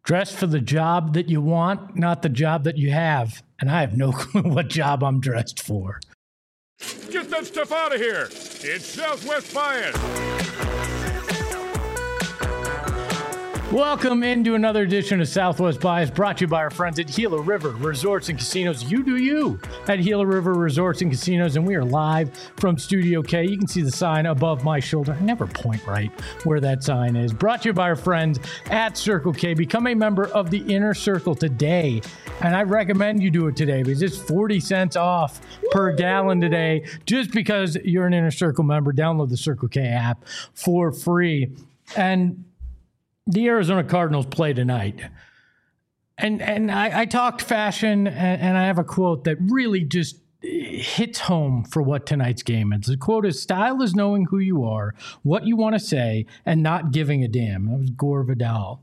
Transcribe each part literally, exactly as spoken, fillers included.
Dress for the job that you want, not the job that you have. And I have no clue what job I'm dressed for. Get that stuff out of here. It's Southwest Bias. Welcome into another edition of Southwest Bias, brought to you by our friends at Gila River Resorts and Casinos. You do you at Gila River Resorts and Casinos, and we are live from Studio K. You can see the sign above my shoulder. I never point right where that sign is. Brought to you by our friends at Circle K. Become a member of the Inner Circle today, and I recommend you do it today because it's forty cents off per gallon today just because you're an Inner Circle member. Download the Circle K app for free. And the Arizona Cardinals play tonight. And and I, I talked fashion, and, and I have a quote that really just hits home for what tonight's game is. The quote is, "Style is knowing who you are, what you want to say, and not giving a damn." That was Gore Vidal.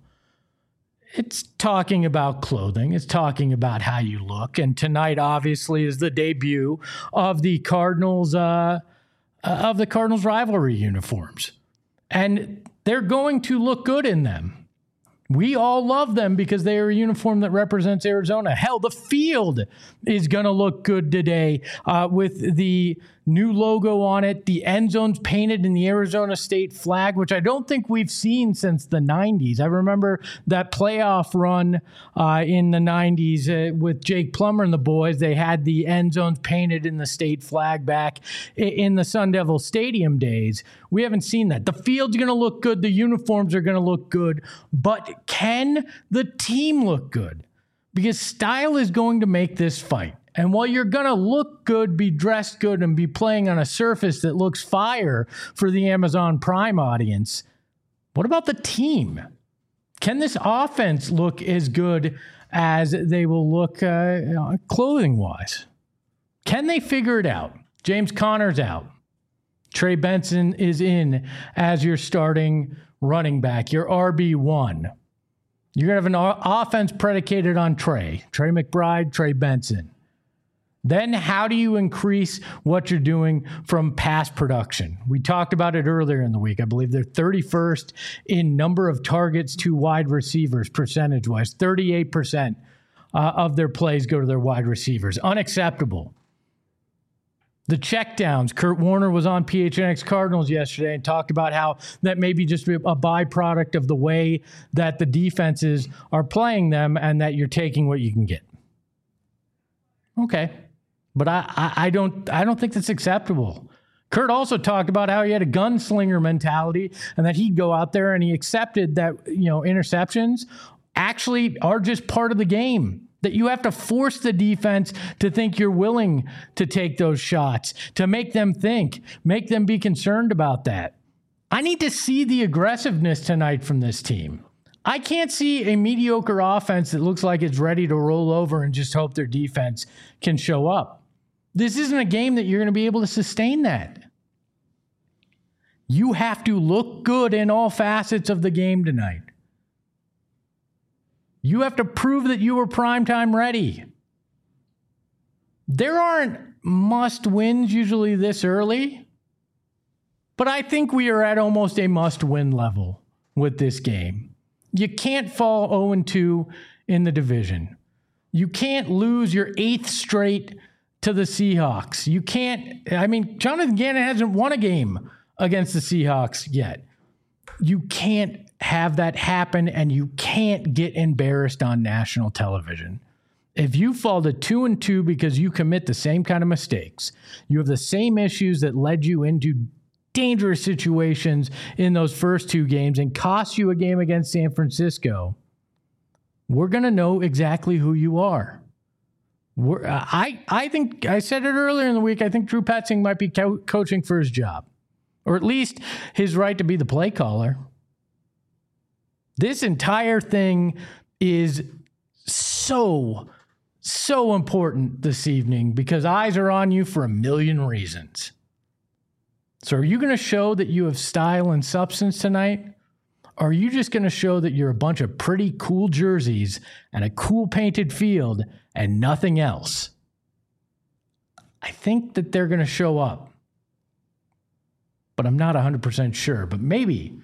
It's talking about clothing. It's talking about how you look. And tonight, obviously, is the debut of the Cardinals, uh, of the Cardinals rivalry uniforms. And they're going to look good in them. We all love them because they are a uniform that represents Arizona. Hell, the field is going to look good today uh, with the new logo on it. The end zone's painted in the Arizona state flag, which I don't think we've seen since the nineties. I remember that playoff run uh, in the nineties uh, with Jake Plummer and the boys. They had the end zones painted in the state flag back in the Sun Devil Stadium days. We haven't seen that. The field's going to look good. The uniforms are going to look good. But can the team look good? Because style is going to make this fight. And while you're going to look good, be dressed good, and be playing on a surface that looks fire for the Amazon Prime audience, what about the team? Can this offense look as good as they will look uh, you know, clothing-wise? Can they figure it out? James Conner's out. Trey Benson is in as your starting running back, your R B one. You're going to have an offense predicated on Trey. Trey McBride, Trey Benson. Then how do you increase what you're doing from pass production? We talked about it earlier in the week. I believe they're thirty-first in number of targets to wide receivers percentage-wise. thirty-eight percent uh, of their plays go to their wide receivers. Unacceptable. The checkdowns. Kurt Warner was on P H N X Cardinals yesterday and talked about how that may be just a byproduct of the way that the defenses are playing them and that you're taking what you can get. Okay. But I, I, I don't I don't think that's acceptable. Kurt also talked about how he had a gunslinger mentality and that he'd go out there and he accepted that, you know, interceptions actually are just part of the game. That you have to force the defense to think you're willing to take those shots, to make them think, make them be concerned about that. I need to see the aggressiveness tonight from this team. I can't see a mediocre offense that looks like it's ready to roll over and just hope their defense can show up. This isn't a game that you're going to be able to sustain that. You have to look good in all facets of the game tonight. You have to prove that you were primetime ready. There aren't must-wins usually this early, but I think we are at almost a must-win level with this game. You can't fall oh and two in the division. You can't lose your eighth straight to the Seahawks. You can't, I mean, Jonathan Gannon hasn't won a game against the Seahawks yet. You can't have that happen, and you can't get embarrassed on national television. If you fall to two and two because you commit the same kind of mistakes, you have the same issues that led you into dangerous situations in those first two games and cost you a game against San Francisco, we're going to know exactly who you are. We're, I, I think, I said it earlier in the week, I think Drew Petzing might be co- coaching for his job, or at least his right to be the play caller. This entire thing is so, so important this evening because eyes are on you for a million reasons. So are you going to show that you have style and substance tonight? Or are you just going to show that you're a bunch of pretty cool jerseys and a cool painted field and nothing else? I think that they're going to show up, but I'm not one hundred percent sure. But maybe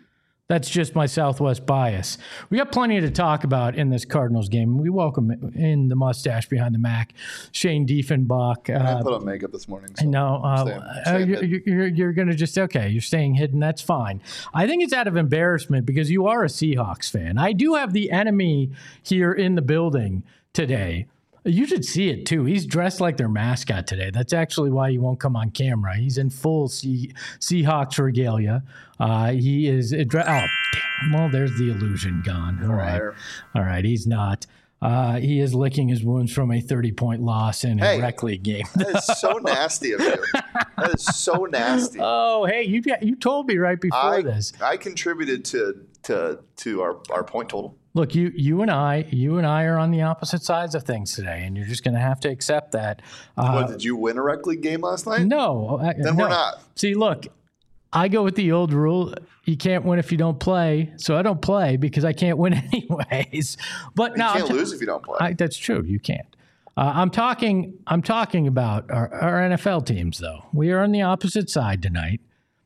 That's just my Southwest bias. We got plenty to talk about in this Cardinals game. We welcome in the mustache behind the Mac, Shane Diefenbach. Uh, I put on makeup this morning. So no, uh, staying, staying uh, you're, you're, you're going to just, okay, you're staying hidden. That's fine. I think it's out of embarrassment because you are a Seahawks fan. I do have the enemy here in the building today. You should see it, too. He's dressed like their mascot today. That's actually why he won't come on camera. He's in full sea- Seahawks regalia. Uh, he is – oh, damn. Well, there's the illusion gone. All right. All right, he's not. Uh, he is licking his wounds from a thirty-point loss in hey, a rec league game. That is so nasty of you. That is so nasty. Oh, hey, you you told me right before I, this. I contributed to to to our, our point total. Look, you you and I, you and I are on the opposite sides of things today, and you're just going to have to accept that. Uh, what, did you win a rec league game last night? No. I, then no. we're not. See, look, I go with the old rule. You can't win if you don't play, so I don't play because I can't win anyways. But you no, can't t- lose if you don't play. I, that's true. You can't. Uh, I'm talking. I'm talking about our, our N F L teams, though. We are on the opposite side tonight.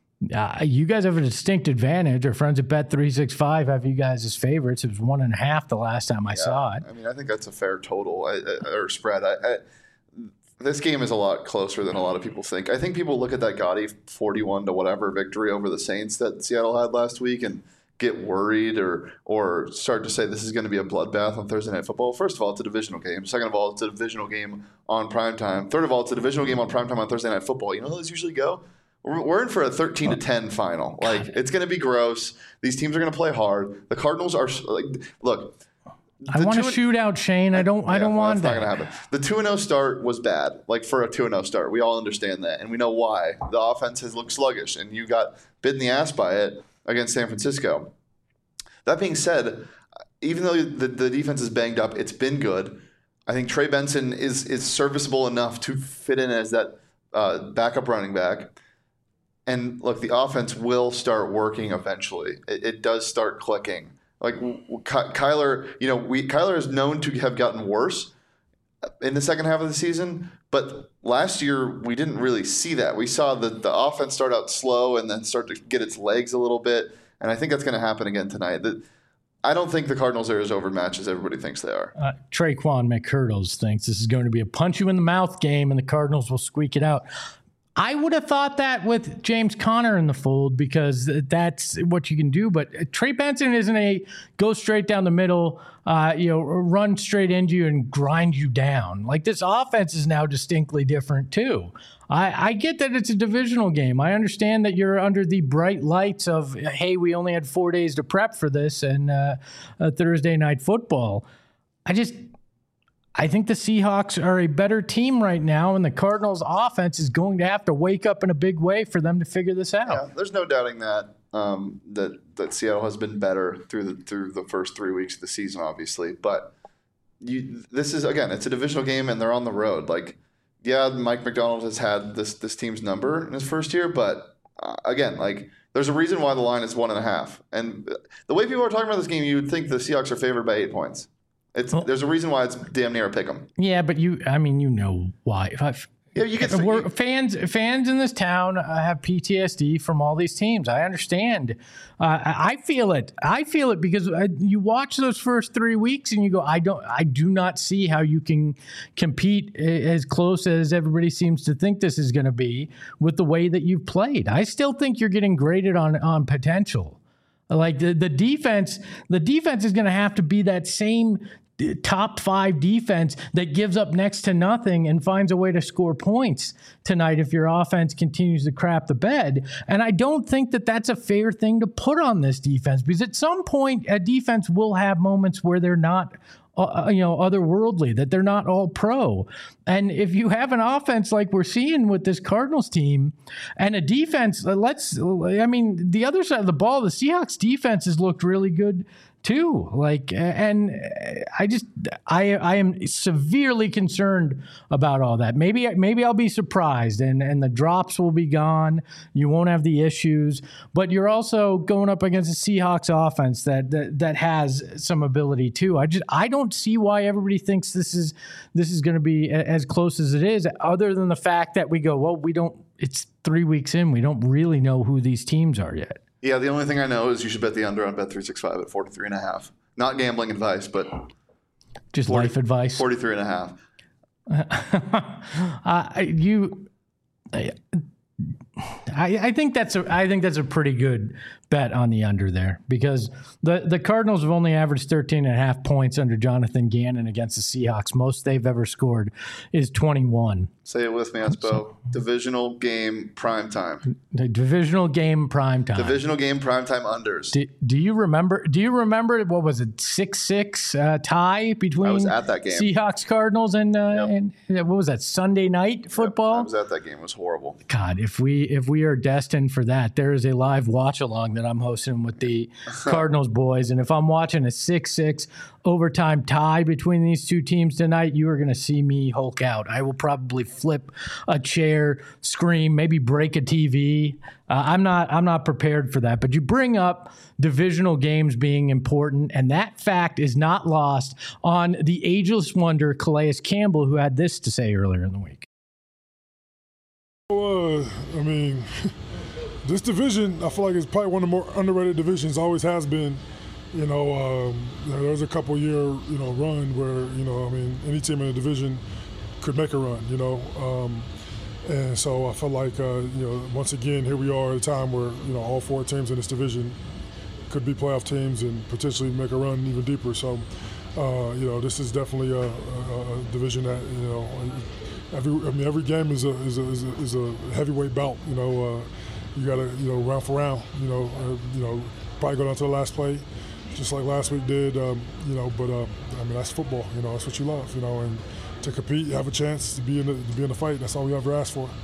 Uh, you guys have a distinct advantage. Our friends at Bet three sixty-five have you guys as favorites. It was one and a half the last time I yeah, saw it. I mean, I think that's a fair total I, I, or spread. I, I, this game is a lot closer than a lot of people think. I think people look at that gaudy forty-one to whatever victory over the Saints that Seattle had last week and get worried or or start to say this is going to be a bloodbath on Thursday Night Football. First of all, it's a divisional game. Second of all, it's a divisional game on primetime. Third of all, it's a divisional game on primetime on Thursday Night Football. You know how those usually go? We're in for a thirteen to ten final. Like, it's going to be gross. These teams are going to play hard. The Cardinals are like, look. I want to shoot out Shane. I don't. Yeah, I don't well, want that's that. Not going to happen. The two and zero start was bad. Like for a two and zero start, we all understand that, and we know why. The offense has looked sluggish, and you got bit in the ass by it against San Francisco. That being said, even though the, the defense is banged up, it's been good. I think Trey Benson is is serviceable enough to fit in as that uh, backup running back. And look, the offense will start working eventually. It, it does start clicking. Like Kyler, you know, we Kyler is known to have gotten worse in the second half of the season, but last year we didn't really see that. We saw the the offense start out slow and then start to get its legs a little bit, and I think that's going to happen again tonight. The, I don't think the Cardinals are as overmatched as everybody thinks they are. Uh, Traquan McCurdles thinks this is going to be a punch you in the mouth game, and the Cardinals will squeak it out. I would have thought that with James Conner in the fold because that's what you can do. But Trey Benson isn't a go straight down the middle, uh, you know, run straight into you and grind you down. Like this offense is now distinctly different too. I, I get that it's a divisional game. I understand that you're under the bright lights of, hey, we only had four days to prep for this and uh, uh, Thursday night football. I just... I think the Seahawks are a better team right now, and the Cardinals' offense is going to have to wake up in a big way for them to figure this out. Yeah, there's no doubting that um, that that Seattle has been better through the through the first three weeks of the season, obviously. But you, this is again, it's a divisional game, and they're on the road. Like, yeah, Mike McDonald has had this this team's number in his first year, but uh, again, like. There's a reason why the line is one and a half, and the way people are talking about this game, you would think the Seahawks are favored by eight points. It's, well, there's a reason why it's damn near a pick 'em. Yeah, but you, I mean, you know why. If I've, yeah, you get we're, you, fans. Fans in this town have P T S D from all these teams. I understand. Uh, I feel it. I feel it because I, you watch those first three weeks and you go, I don't. I do not see how you can compete as close as everybody seems to think this is going to be with the way that you've played. I still think you're getting graded on on potential. Like the, the defense, the defense is going to have to be that same top five defense that gives up next to nothing and finds a way to score points tonight if your offense continues to crap the bed. And I don't think that that's a fair thing to put on this defense because at some point a defense will have moments where they're not Uh, you know, otherworldly, that they're not all pro. And if you have an offense like we're seeing with this Cardinals team and a defense, let's, I mean, the other side of the ball, the Seahawks defense has looked really good too. Like, and I just, I, I am severely concerned about all that. Maybe, maybe I'll be surprised and, and the drops will be gone. You won't have the issues, but you're also going up against a Seahawks offense that, that, that has some ability too. I just, I don't see why everybody thinks this is, this is going to be as close as it is, other than the fact that we go, well, we don't, it's three weeks in. We don't really know who these teams are yet. Yeah, the only thing I know is you should bet the under on Bet three sixty-five at forty-three and a half. Not gambling advice, but just forty, life advice. forty-three and a half. uh, you, I, I think that's a, I think that's a pretty good bet on the under there, because the, the Cardinals have only averaged thirteen and a half points under Jonathan Gannon against the Seahawks. Most they've ever scored is twenty-one. Say it with me, Espo. Divisional game prime time. The divisional game prime time. Divisional game prime time unders. Do, do you remember? Do you remember what was it? Six six uh, tie between I was at that game. Seahawks Cardinals and, uh, Yep. and what was that, Sunday night football? Yep, I was at that game. It was horrible. God, if we if we are destined for that, there is a live watch along that I'm hosting with the Cardinals boys, and if I'm watching a six six overtime tie between these two teams tonight, you are going to see me Hulk out. I will probably flip a chair, scream, maybe break a T V. Uh, I'm not I'm not prepared for that. But you bring up divisional games being important, and that fact is not lost on the ageless wonder Calais Campbell, who had this to say earlier in the week. Well, uh, I mean, this division, I feel like it's probably one of the more underrated divisions. Always has been. You know, um, you know, there's a couple year, you know, run where, you know, I mean, any team in the division could make a run, you know. Um, and so I feel like, uh, you know, once again, here we are at a time where, you know, all four teams in this division could be playoff teams and potentially make a run even deeper. So, uh, you know, this is definitely a, a, a division that, you know, every I mean, every game is a is a, is a, is a heavyweight bout. You know, uh, you got to, you know, round for round, you know, uh, you know, probably go down to the last play, just like last week did, um, you know. But uh, I mean, that's football. You know, that's what you love. You know, and to compete, have a chance to be in the to be in the fight. That's all we ever asked for.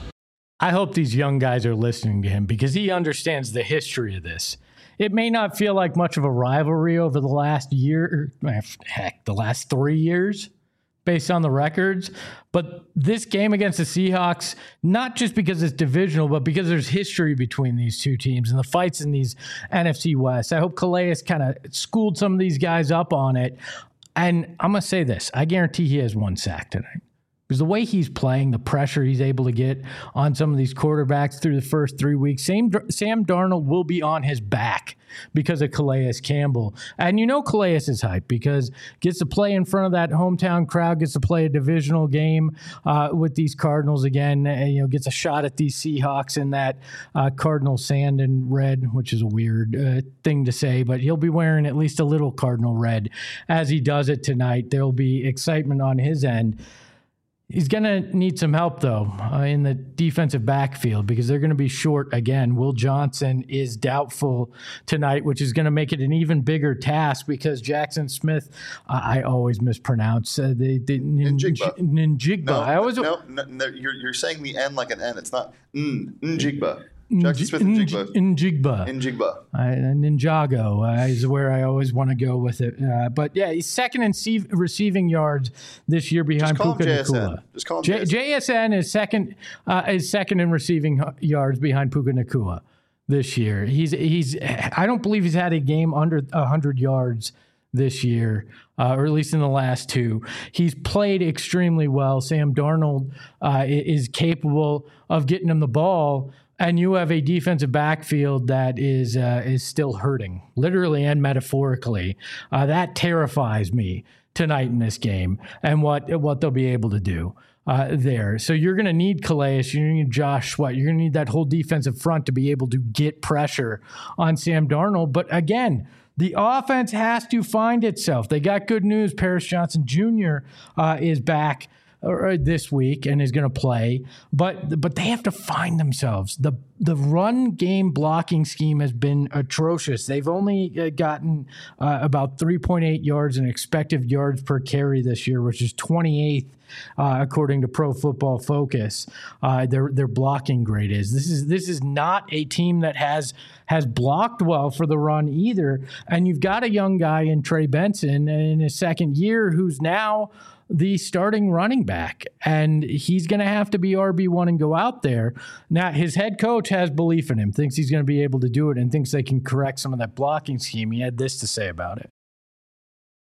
I hope these young guys are listening to him, because he understands the history of this. It may not feel like much of a rivalry over the last year, or heck, the last three years, based on the records. But this game against the Seahawks, not just because it's divisional, but because there's history between these two teams and the fights in these N F C West. I hope Calais kind of schooled some of these guys up on it. And I'm going to say this. I guarantee he has one sack tonight. Because the way he's playing, the pressure he's able to get on some of these quarterbacks through the first three weeks, Sam, Sam Darnold will be on his back because of Calais Campbell. And you know Calais is hyped because gets to play in front of that hometown crowd, gets to play a divisional game uh, with these Cardinals again, and, you know, gets a shot at these Seahawks in that uh, Cardinal sand and red, which is a weird uh, thing to say, but he'll be wearing at least a little Cardinal red as he does it tonight. There'll be excitement on his end. He's going to need some help, though, uh, in the defensive backfield, because they're going to be short again. Will Johnson is doubtful tonight, which is going to make it an even bigger task because Jackson Smith, uh, I always mispronounce. Uh, the, the, Njigba. Njigba. No, I always, no, no, no, you're, you're saying the N like an N. It's not mm, Njigba. Jackson Smith and Njigba. Njigba. Njigba. Uh, Ninjago uh, is where I always want to go with it. Uh, but yeah, he's second in see- receiving yards this year behind Just call Puka him J S N. Nacua. Just call him J- J S N is second uh, is second in receiving yards behind Puka Nacua this year. He's he's I don't believe he's had a game under one hundred yards this year, uh, or at least in the last two. He's played extremely well. Sam Darnold uh, is capable of getting him the ball. And you have a defensive backfield that is uh, is still hurting, literally and metaphorically. Uh, that terrifies me tonight in this game, and what what they'll be able to do uh, there. So you're going to need Calais, you're going to need Josh Sweat, you're going to need that whole defensive front to be able to get pressure on Sam Darnold. But again, the offense has to find itself. They got good news. Paris Johnson Junior Uh, is back this week and is going to play, but but they have to find themselves. The the run game blocking scheme has been atrocious. They've only gotten uh, about three point eight yards in expected yards per carry this year, which is twenty-eighth uh, according to Pro Football Focus. Uh, their their blocking grade is. This is this is not a team that has has blocked well for the run either. And you've got a young guy in Trey Benson in his second year who's now the starting running back, and he's going to have to be R B one and go out there. Now, his head coach has belief in him, thinks he's going to be able to do it, and thinks they can correct some of that blocking scheme. He had this to say about it.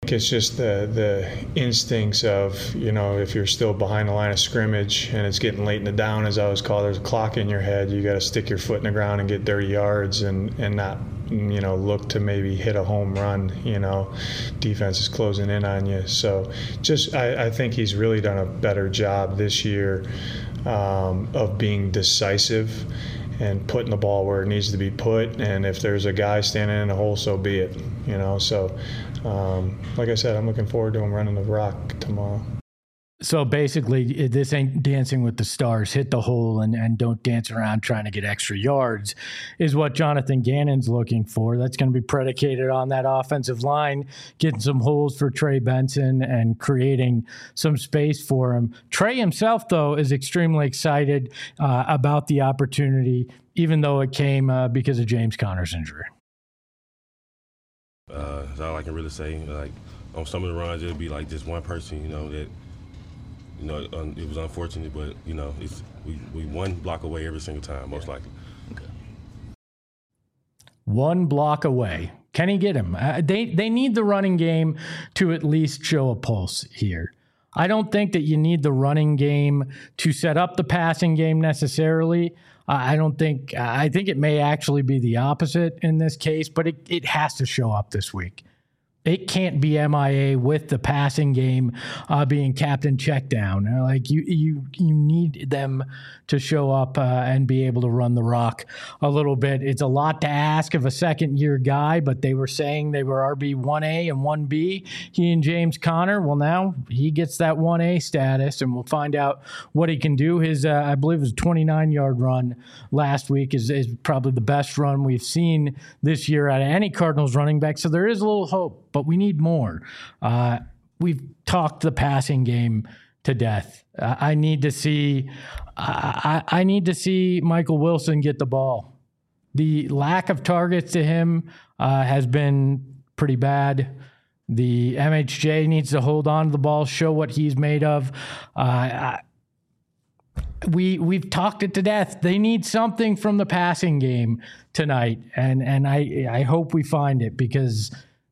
It's just the the instincts of, you know, if you're still behind the line of scrimmage and it's getting late in the down, as I always call it, there's a clock in your head. You got to stick your foot in the ground and get dirty yards and, and not, you know, look to maybe hit a home run. You know, defense is closing in on you. So just I, I think he's really done a better job this year um, of being decisive and putting the ball where it needs to be put. And if there's a guy standing in the hole, so be it. You know, so. Um, like I said, I'm looking forward to him running the rock tomorrow. So basically, this ain't Dancing with the Stars. Hit the hole and, and don't dance around trying to get extra yards is what Jonathan Gannon's looking for. That's going to be predicated on that offensive line, getting some holes for Trey Benson and creating some space for him. Trey himself, though, is extremely excited uh, about the opportunity, even though it came uh, because of James Conner's injury. Uh, that's all I can really say. Like on some of the runs, it'll be like just one person, you know, that, you know, um, it was unfortunate, but you know, it's we we one block away every single time, most likely. Okay. One block away. Can he get him? Uh, they they need the running game to at least show a pulse here. I don't think that you need the running game to set up the passing game necessarily. I don't think, I think it may actually be the opposite in this case, but it, it has to show up this week. It can't be M I A with the passing game uh, being captain check down. Like you, you, you need them to show up uh, and be able to run the rock a little bit. It's a lot to ask of a second year guy, but they were saying they were R B one A and one B. He and James Conner. Well, now he gets that one A status, and we'll find out what he can do. His, uh, I believe, his twenty-nine yard run last week is, is probably the best run we've seen this year out of any Cardinals running back. So there is a little hope. But we need more. Uh, we've talked the passing game to death. Uh, I need to see. I, I need to see Michael Wilson get the ball. The lack of targets to him uh, has been pretty bad. The M H J needs to hold on to the ball, show what he's made of. Uh, I, we we've talked it to death. They need something from the passing game tonight, and and I I hope we find it, because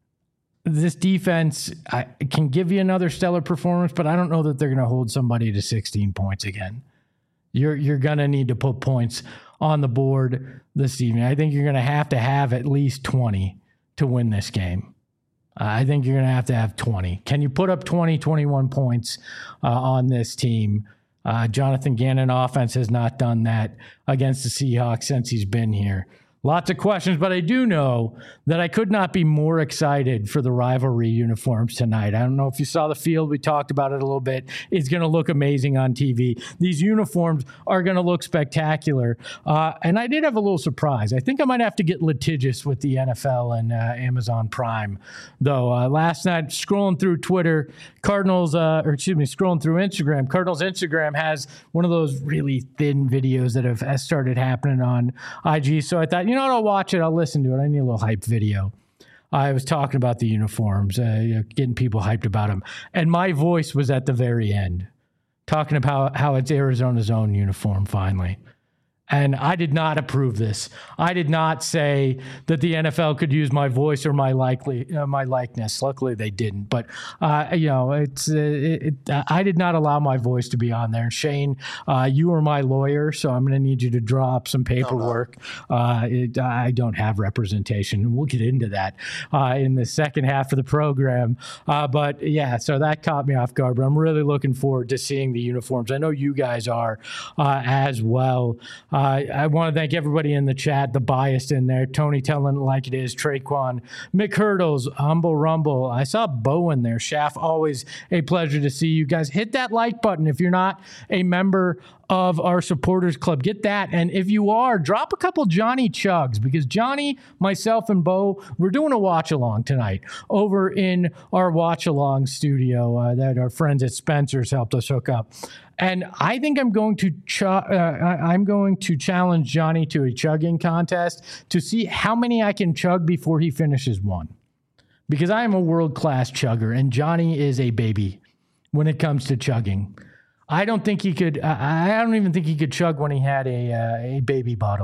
this defense I, can give you another stellar performance, but I don't know that they're going to hold somebody to sixteen points again. You're you're going to need to put points on the board this evening. I think you're going to have to have at least twenty to win this game. Uh, I think you're going to have to have twenty. Can you put up twenty, twenty-one points uh, on this team? Uh, Jonathan Gannon offense has not done that against the Seahawks since he's been here. Lots of questions, but I do know that I could not be more excited for the rivalry uniforms tonight. I don't know if you saw the field. We talked about it a little bit. It's going to look amazing on T V. These uniforms are going to look spectacular. Uh, and I did have a little surprise. I think I might have to get litigious with the N F L and uh, Amazon Prime, though. Uh, last night, scrolling through Twitter, Cardinals, uh, or excuse me, scrolling through Instagram, Cardinals Instagram has one of those really thin videos that have, has started happening on I G. So I thought, you know what, I'll watch it. I'll listen to it. I need a little hype video. I was talking about the uniforms, uh, you know, getting people hyped about them. And my voice was at the very end, talking about how it's Arizona's own uniform finally. And I did not approve this. I did not say that the N F L could use my voice or my likely uh, my likeness. Luckily, they didn't. But uh, you know, it's uh, it, it, I did not allow my voice to be on there. Shane, uh, you are my lawyer, so I'm going to need you to draw up some paperwork. Uh, it, I don't have representation, and we'll get into that uh, in the second half of the program. Uh, but yeah, so that caught me off guard. But I'm really looking forward to seeing the uniforms. I know you guys are uh, as well. Uh, I want to thank everybody in the chat, the biased in there. Tony telling it like it is. Traquan, Mick Hurdles, Humble Rumble. I saw Bo in there. Shaft, always a pleasure to see you guys. Hit that like button if you're not a member of our supporters club. Get that. And if you are, drop a couple Johnny Chugs, because Johnny, myself, and Bo, we're doing a watch along tonight over in our watch along studio uh, that our friends at Spencer's helped us hook up. And I think I'm going to ch- uh, I'm going to challenge Johnny to a chugging contest to see how many I can chug before he finishes one, because I am a world-class chugger, and Johnny is a baby when it comes to chugging. I don't think he could. Uh, I don't even think he could chug when he had a uh, a baby bottle.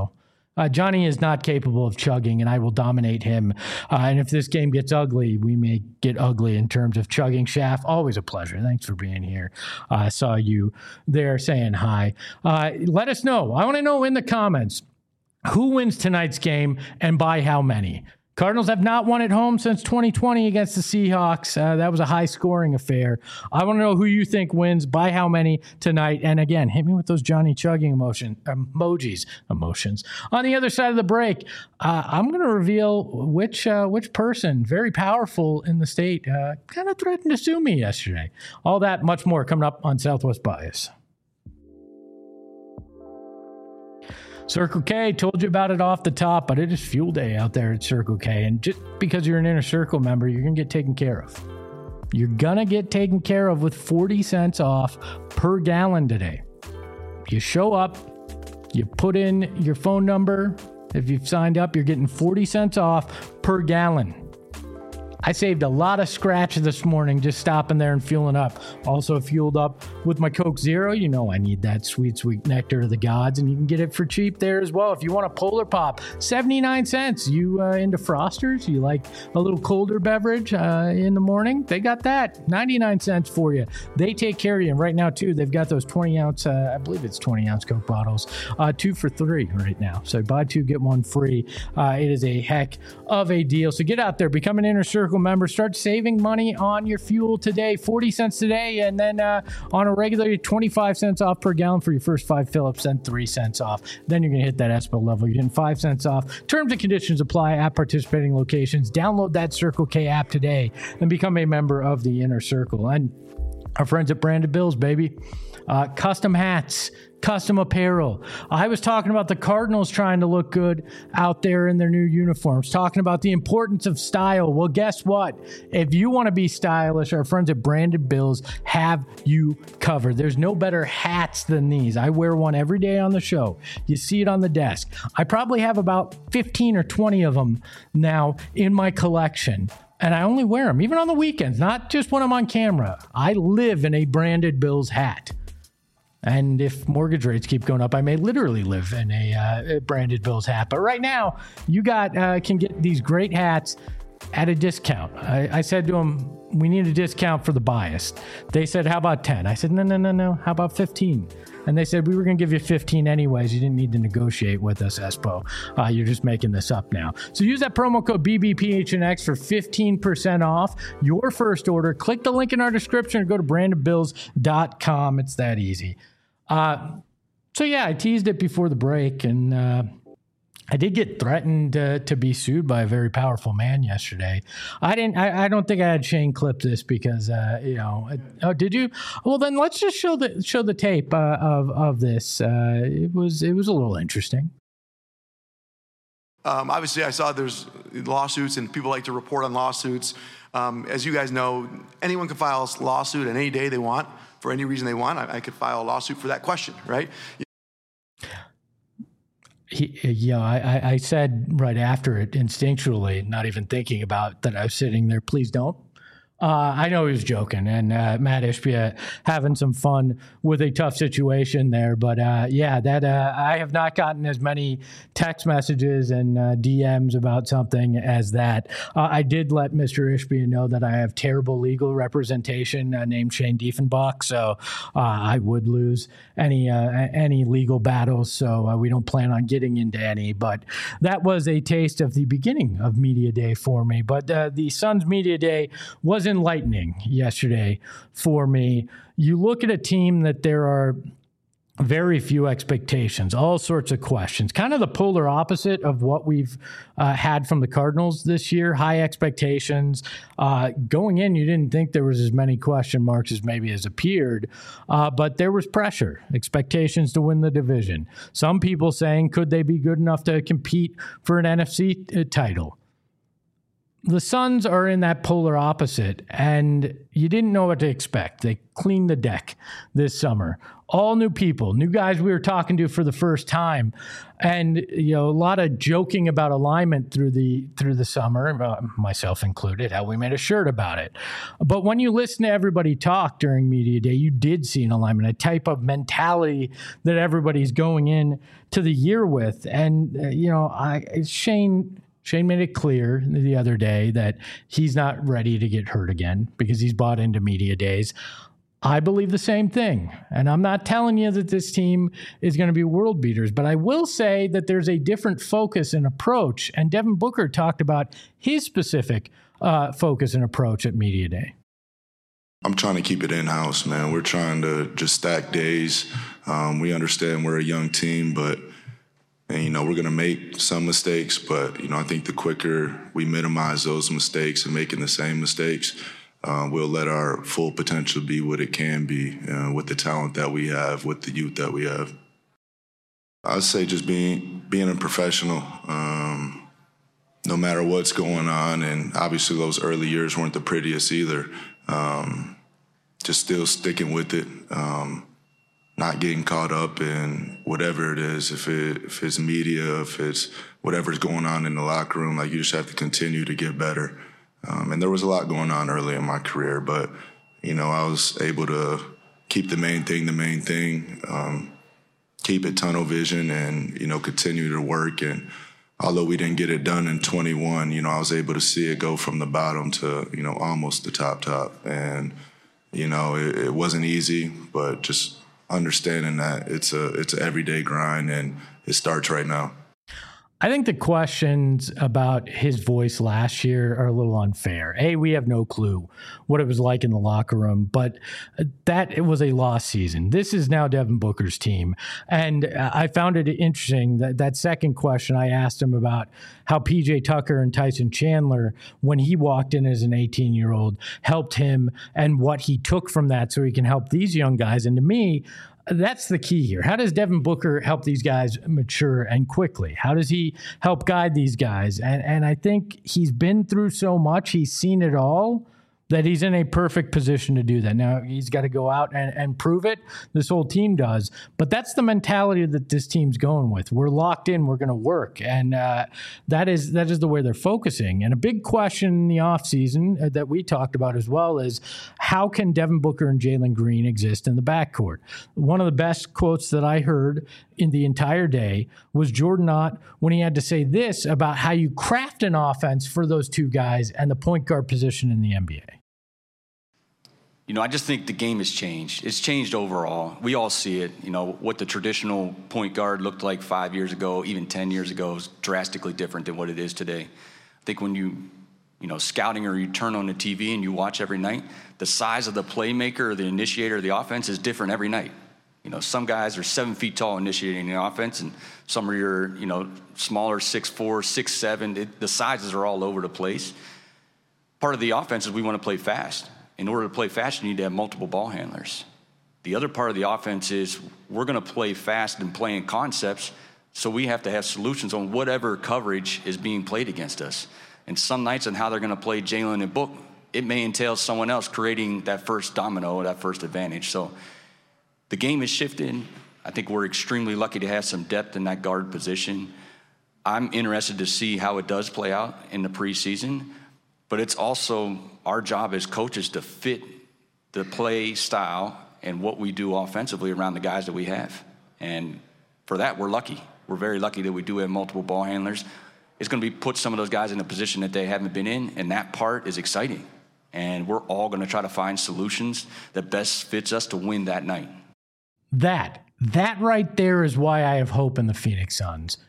Uh, Johnny is not capable of chugging, and I will dominate him. Uh, and if this game gets ugly, we may get ugly in terms of chugging. Shaft, always a pleasure. Thanks for being here. Uh, I saw you there saying hi. Uh, let us know. I want to know in the comments who wins tonight's game and by how many. Cardinals have not won at home since twenty twenty against the Seahawks. Uh, that was a high-scoring affair. I want to know who you think wins, by how many tonight. And again, hit me with those Johnny chugging emotion emojis, emotions. On the other side of the break, uh, I'm going to reveal which uh, which person, very powerful in the state, uh, kind of threatened to sue me yesterday. All that, much more, coming up on Southwest Bias. Circle K, told you about it off the top, but it is fuel day out there at Circle K. And just because you're an Inner Circle member, you're going to get taken care of. You're going to get taken care of with forty cents off per gallon today. You show up, you put in your phone number. If you've signed up, you're getting forty cents off per gallon. I saved a lot of scratch this morning just stopping there and fueling up. Also fueled up with my Coke Zero. You know I need that sweet, sweet nectar of the gods, and you can get it for cheap there as well. If you want a Polar Pop, seventy-nine cents. You uh, into Frosters? You like a little colder beverage uh, in the morning? They got that. ninety-nine cents for you. They take care of you. And right now, too, they've got those twenty ounce, uh, I believe it's twenty ounce Coke bottles, uh, two for three right now. So buy two, get one free. Uh, it is a heck of a deal. So get out there, become an Inner Circle member, start saving money on your fuel today. forty cents today, and then uh, on a regular twenty-five cents off per gallon for your first five fill-ups, then three cents off. Then you're going to hit that Espo level. You're getting five cents off. Terms and conditions apply at participating locations. Download that Circle K app today and become a member of the Inner Circle. And our friends at Branded Bills, baby. Uh, custom hats, custom apparel. I was talking about the Cardinals trying to look good out there in their new uniforms, talking about the importance of style. Well, guess what? If you want to be stylish, our friends at Branded Bills have you covered. There's no better hats than these. I wear one every day on the show. You see it on the desk. I probably have about fifteen or twenty of them now in my collection. And I only wear them, even on the weekends, not just when I'm on camera. I live in a Branded Bills hat. And if mortgage rates keep going up, I may literally live in a, uh, a Branded Bills hat. But right now, you got uh, can get these great hats at a discount. I, I said to them, we need a discount for the bias. They said, how about ten? I said, no, no, no, no. How about fifteen? And they said, we were going to give you fifteen anyways. You didn't need to negotiate with us, Espo. Uh, you're just making this up now. So use that promo code B B P H N X for fifteen percent off your first order. Click the link in our description or go to branded bills dot com. It's that easy. Uh, so, yeah, I teased it before the break, and uh, I did get threatened uh, to be sued by a very powerful man yesterday. I didn't. I, I don't think I had Shane clip this because, uh, you know. It, oh, did you? Well, then let's just show the show the tape uh, of of this. Uh, it was it was a little interesting. Um, obviously, I saw there's lawsuits, and people like to report on lawsuits. Um, as you guys know, anyone can file a lawsuit on any day they want for any reason they want. I, I could file a lawsuit for that question, right? He, yeah, I, I said right after it instinctually, not even thinking about that I was sitting there, please don't. Uh, I know he was joking, and uh, Matt Ishbia having some fun with a tough situation there. But uh, yeah, that uh, I have not gotten as many text messages and uh, D Ms about something as that. Uh, I did let Mister Ishbia know that I have terrible legal representation uh, named Shane Diefenbach, so uh, I would lose any uh, any legal battles. So uh, we don't plan on getting into any. But that was a taste of the beginning of Media Day for me. But uh, the Suns Media Day was enlightening yesterday for me. You look at a team that there are very few expectations, all sorts of questions, kind of the polar opposite of what we've uh, had from the Cardinals this year. High expectations. Uh, going in, you didn't think there was as many question marks as maybe has appeared, uh, but there was pressure, expectations to win the division. Some people saying, could they be good enough to compete for an N F C t- title? the Suns are in that polar opposite, and you didn't know what to expect. They cleaned the deck this summer. All new people, new guys we were talking to for the first time, and you know a lot of joking about alignment through the through the summer, uh, myself included. How we made a shirt about it. But when you listen to everybody talk during media day, you did see an alignment, a type of mentality that everybody's going in to the year with. And uh, you know, I Shane. Shane made it clear the other day that he's not ready to get hurt again because he's bought into media days. I believe the same thing. And I'm not telling you that this team is going to be world beaters, but I will say that there's a different focus and approach. And Devin Booker talked about his specific uh, focus and approach at media day. I'm trying to keep it in-house, man. We're trying to just stack days. Um, we understand we're a young team, but And, you know, we're going to make some mistakes, but, you know, I think the quicker we minimize those mistakes and making the same mistakes, uh, we'll let our full potential be what it can be uh, with the talent that we have, with the youth that we have. I'd say just being being a professional, um, no matter what's going on, and obviously those early years weren't the prettiest either, um, just still sticking with it. Um, not getting caught up in whatever it is, if it if it's media, if it's whatever's going on in the locker room, like you just have to continue to get better. Um, and there was a lot going on early in my career, but, you know, I was able to keep the main thing the main thing, um, keep it tunnel vision and, you know, continue to work. And although we didn't get it done in twenty-one, you know, I was able to see it go from the bottom to, you know, almost the top top. And, you know, it, it wasn't easy, but just understanding that it's a it's an everyday grind and it starts right now. I think the questions about his voice last year are a little unfair. A, we have no clue what it was like in the locker room, but that it was a lost season. This is now Devin Booker's team. And I found it interesting that that second question I asked him about how P J Tucker and Tyson Chandler, when he walked in as an eighteen-year-old, helped him and what he took from that so he can help these young guys. And to me, that's the key here. How does Devin Booker help these guys mature and quickly? How does he help guide these guys? And and I think he's been through so much, he's seen it all, that he's in a perfect position to do that. Now, he's got to go out and, and prove it. This whole team does. But that's the mentality that this team's going with. We're locked in. We're going to work. And uh, that is that is the way they're focusing. And a big question in the offseason that we talked about as well is how can Devin Booker and Jalen Green exist in the backcourt? One of the best quotes that I heard in the entire day was Jordan Ott when he had to say this about how you craft an offense for those two guys and the point guard position in the N B A. You know, I just think the game has changed. It's changed overall. We all see it. You know, what the traditional point guard looked like five years ago, even ten years ago, is drastically different than what it is today. I think when you, you know, scouting or you turn on the T V and you watch every night, the size of the playmaker or the initiator of the offense is different every night. You know, some guys are seven feet tall initiating the offense, and some are your, you know, smaller, six four, six seven. It, the sizes are all over the place. Part of the offense is we want to play fast. In order to play fast, you need to have multiple ball handlers. The other part of the offense is we're going to play fast and play in concepts, so we have to have solutions on whatever coverage is being played against us. And some nights on how they're going to play Jalen and Book, it may entail someone else creating that first domino or that first advantage. So the game is shifting. I think we're extremely lucky to have some depth in that guard position. I'm interested to see how it does play out in the preseason. But it's also our job as coaches to fit the play style and what we do offensively around the guys that we have. And for that, we're lucky. We're very lucky that we do have multiple ball handlers. It's going to be put some of those guys in a position that they haven't been in, and that part is exciting. And we're all going to try to find solutions that best fits us to win that night. That, that right there is why I have hope in the Phoenix Suns.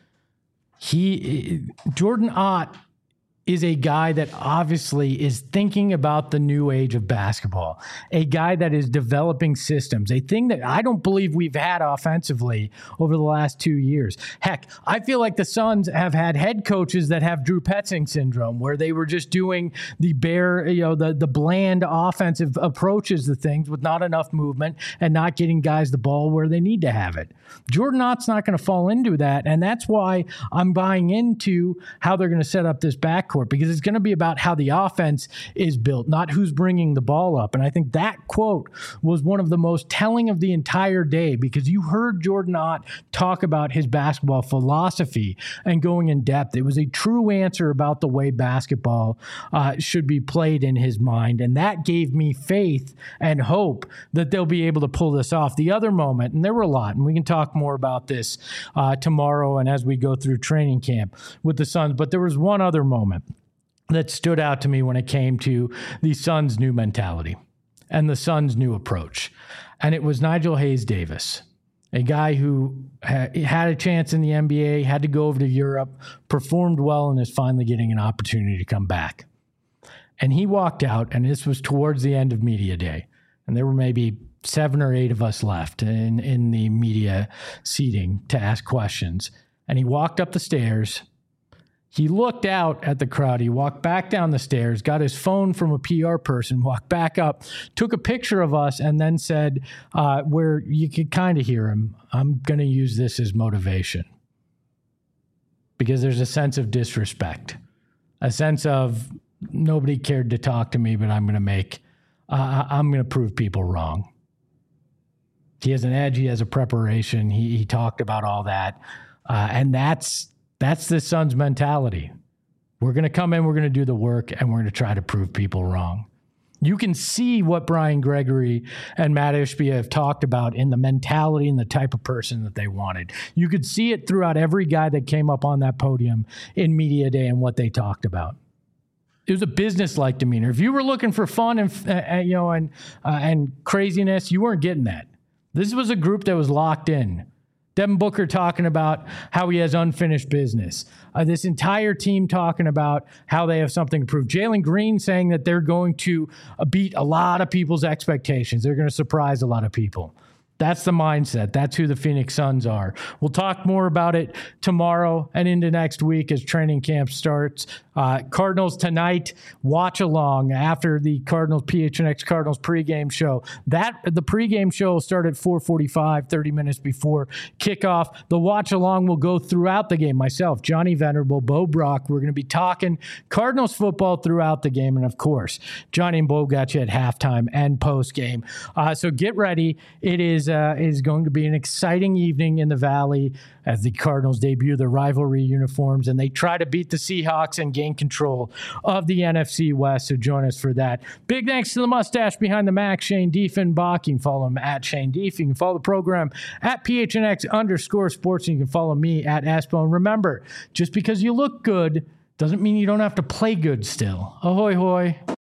He, Jordan Ott, is a guy that obviously is thinking about the new age of basketball, a guy that is developing systems, a thing that I don't believe we've had offensively over the last two years. Heck, I feel like the Suns have had head coaches that have Drew Petzing syndrome, where they were just doing the bare, you know, the, the bland offensive approaches to things with not enough movement and not getting guys the ball where they need to have it. Jordan Ott's not going to fall into that, and that's why I'm buying into how they're going to set up this backcourt. backcourt, because it's going to be about how the offense is built, not who's bringing the ball up. And I think that quote was one of the most telling of the entire day, because you heard Jordan Ott talk about his basketball philosophy and going in depth. It was a true answer about the way basketball uh, should be played in his mind. And that gave me faith and hope that they'll be able to pull this off. The other moment, and there were a lot, and we can talk more about this uh, tomorrow and as we go through training camp with the Suns, but there was one other moment that stood out to me when it came to the Suns' new mentality and the Suns' new approach. And it was Nigel Hayes-Davis, a guy who ha- had a chance in the N B A, had to go over to Europe, performed well, and is finally getting an opportunity to come back. And he walked out, and this was towards the end of media day, and there were maybe seven or eight of us left in, in the media seating to ask questions. And he walked up the stairs. He looked out at the crowd. He walked back down the stairs, got his phone from a P R person, walked back up, took a picture of us, and then said, uh, where you could kind of hear him, I'm going to use this as motivation. Because there's a sense of disrespect, a sense of nobody cared to talk to me, but I'm going to make, uh, I'm going to prove people wrong. He has an edge. He has a preparation. He, he talked about all that. Uh, and that's that's the Suns' mentality. We're going to come in, we're going to do the work, and we're going to try to prove people wrong. You can see what Brian Gregory and Matt Ishbia have talked about in the mentality and the type of person that they wanted. You could see it throughout every guy that came up on that podium in media day and what they talked about. It was a business-like demeanor. If you were looking for fun and uh, you know and uh, and craziness, you weren't getting that. This was a group that was locked in. Devin Booker talking about how he has unfinished business. Uh, this entire team talking about how they have something to prove. Jalen Green saying that they're going to uh, beat a lot of people's expectations. They're going to surprise a lot of people. That's the mindset. That's who the Phoenix Suns are. We'll talk more about it tomorrow and into next week as training camp starts. Uh, Cardinals tonight, watch along after the Cardinals, P H N X Cardinals pregame show. That the pregame show will start at four forty-five, thirty minutes before kickoff. The watch along will go throughout the game. Myself, Johnny Venerable, Bo Brock. We're going to be talking Cardinals football throughout the game. And of course, Johnny and Bo got you at halftime and postgame. Uh, so get ready. It is uh, is going to be an exciting evening in the Valley as the Cardinals debut their rivalry uniforms and they try to beat the Seahawks and gain control of the N F C West. So join us for that. Big thanks to the mustache behind the Mac, Shane Diefenbach. You can follow him at Shane Dief. You can follow the program at P H N X underscore sports. And you can follow me at Aspone. Remember, just because you look good doesn't mean you don't have to play good still. Ahoy, hoy.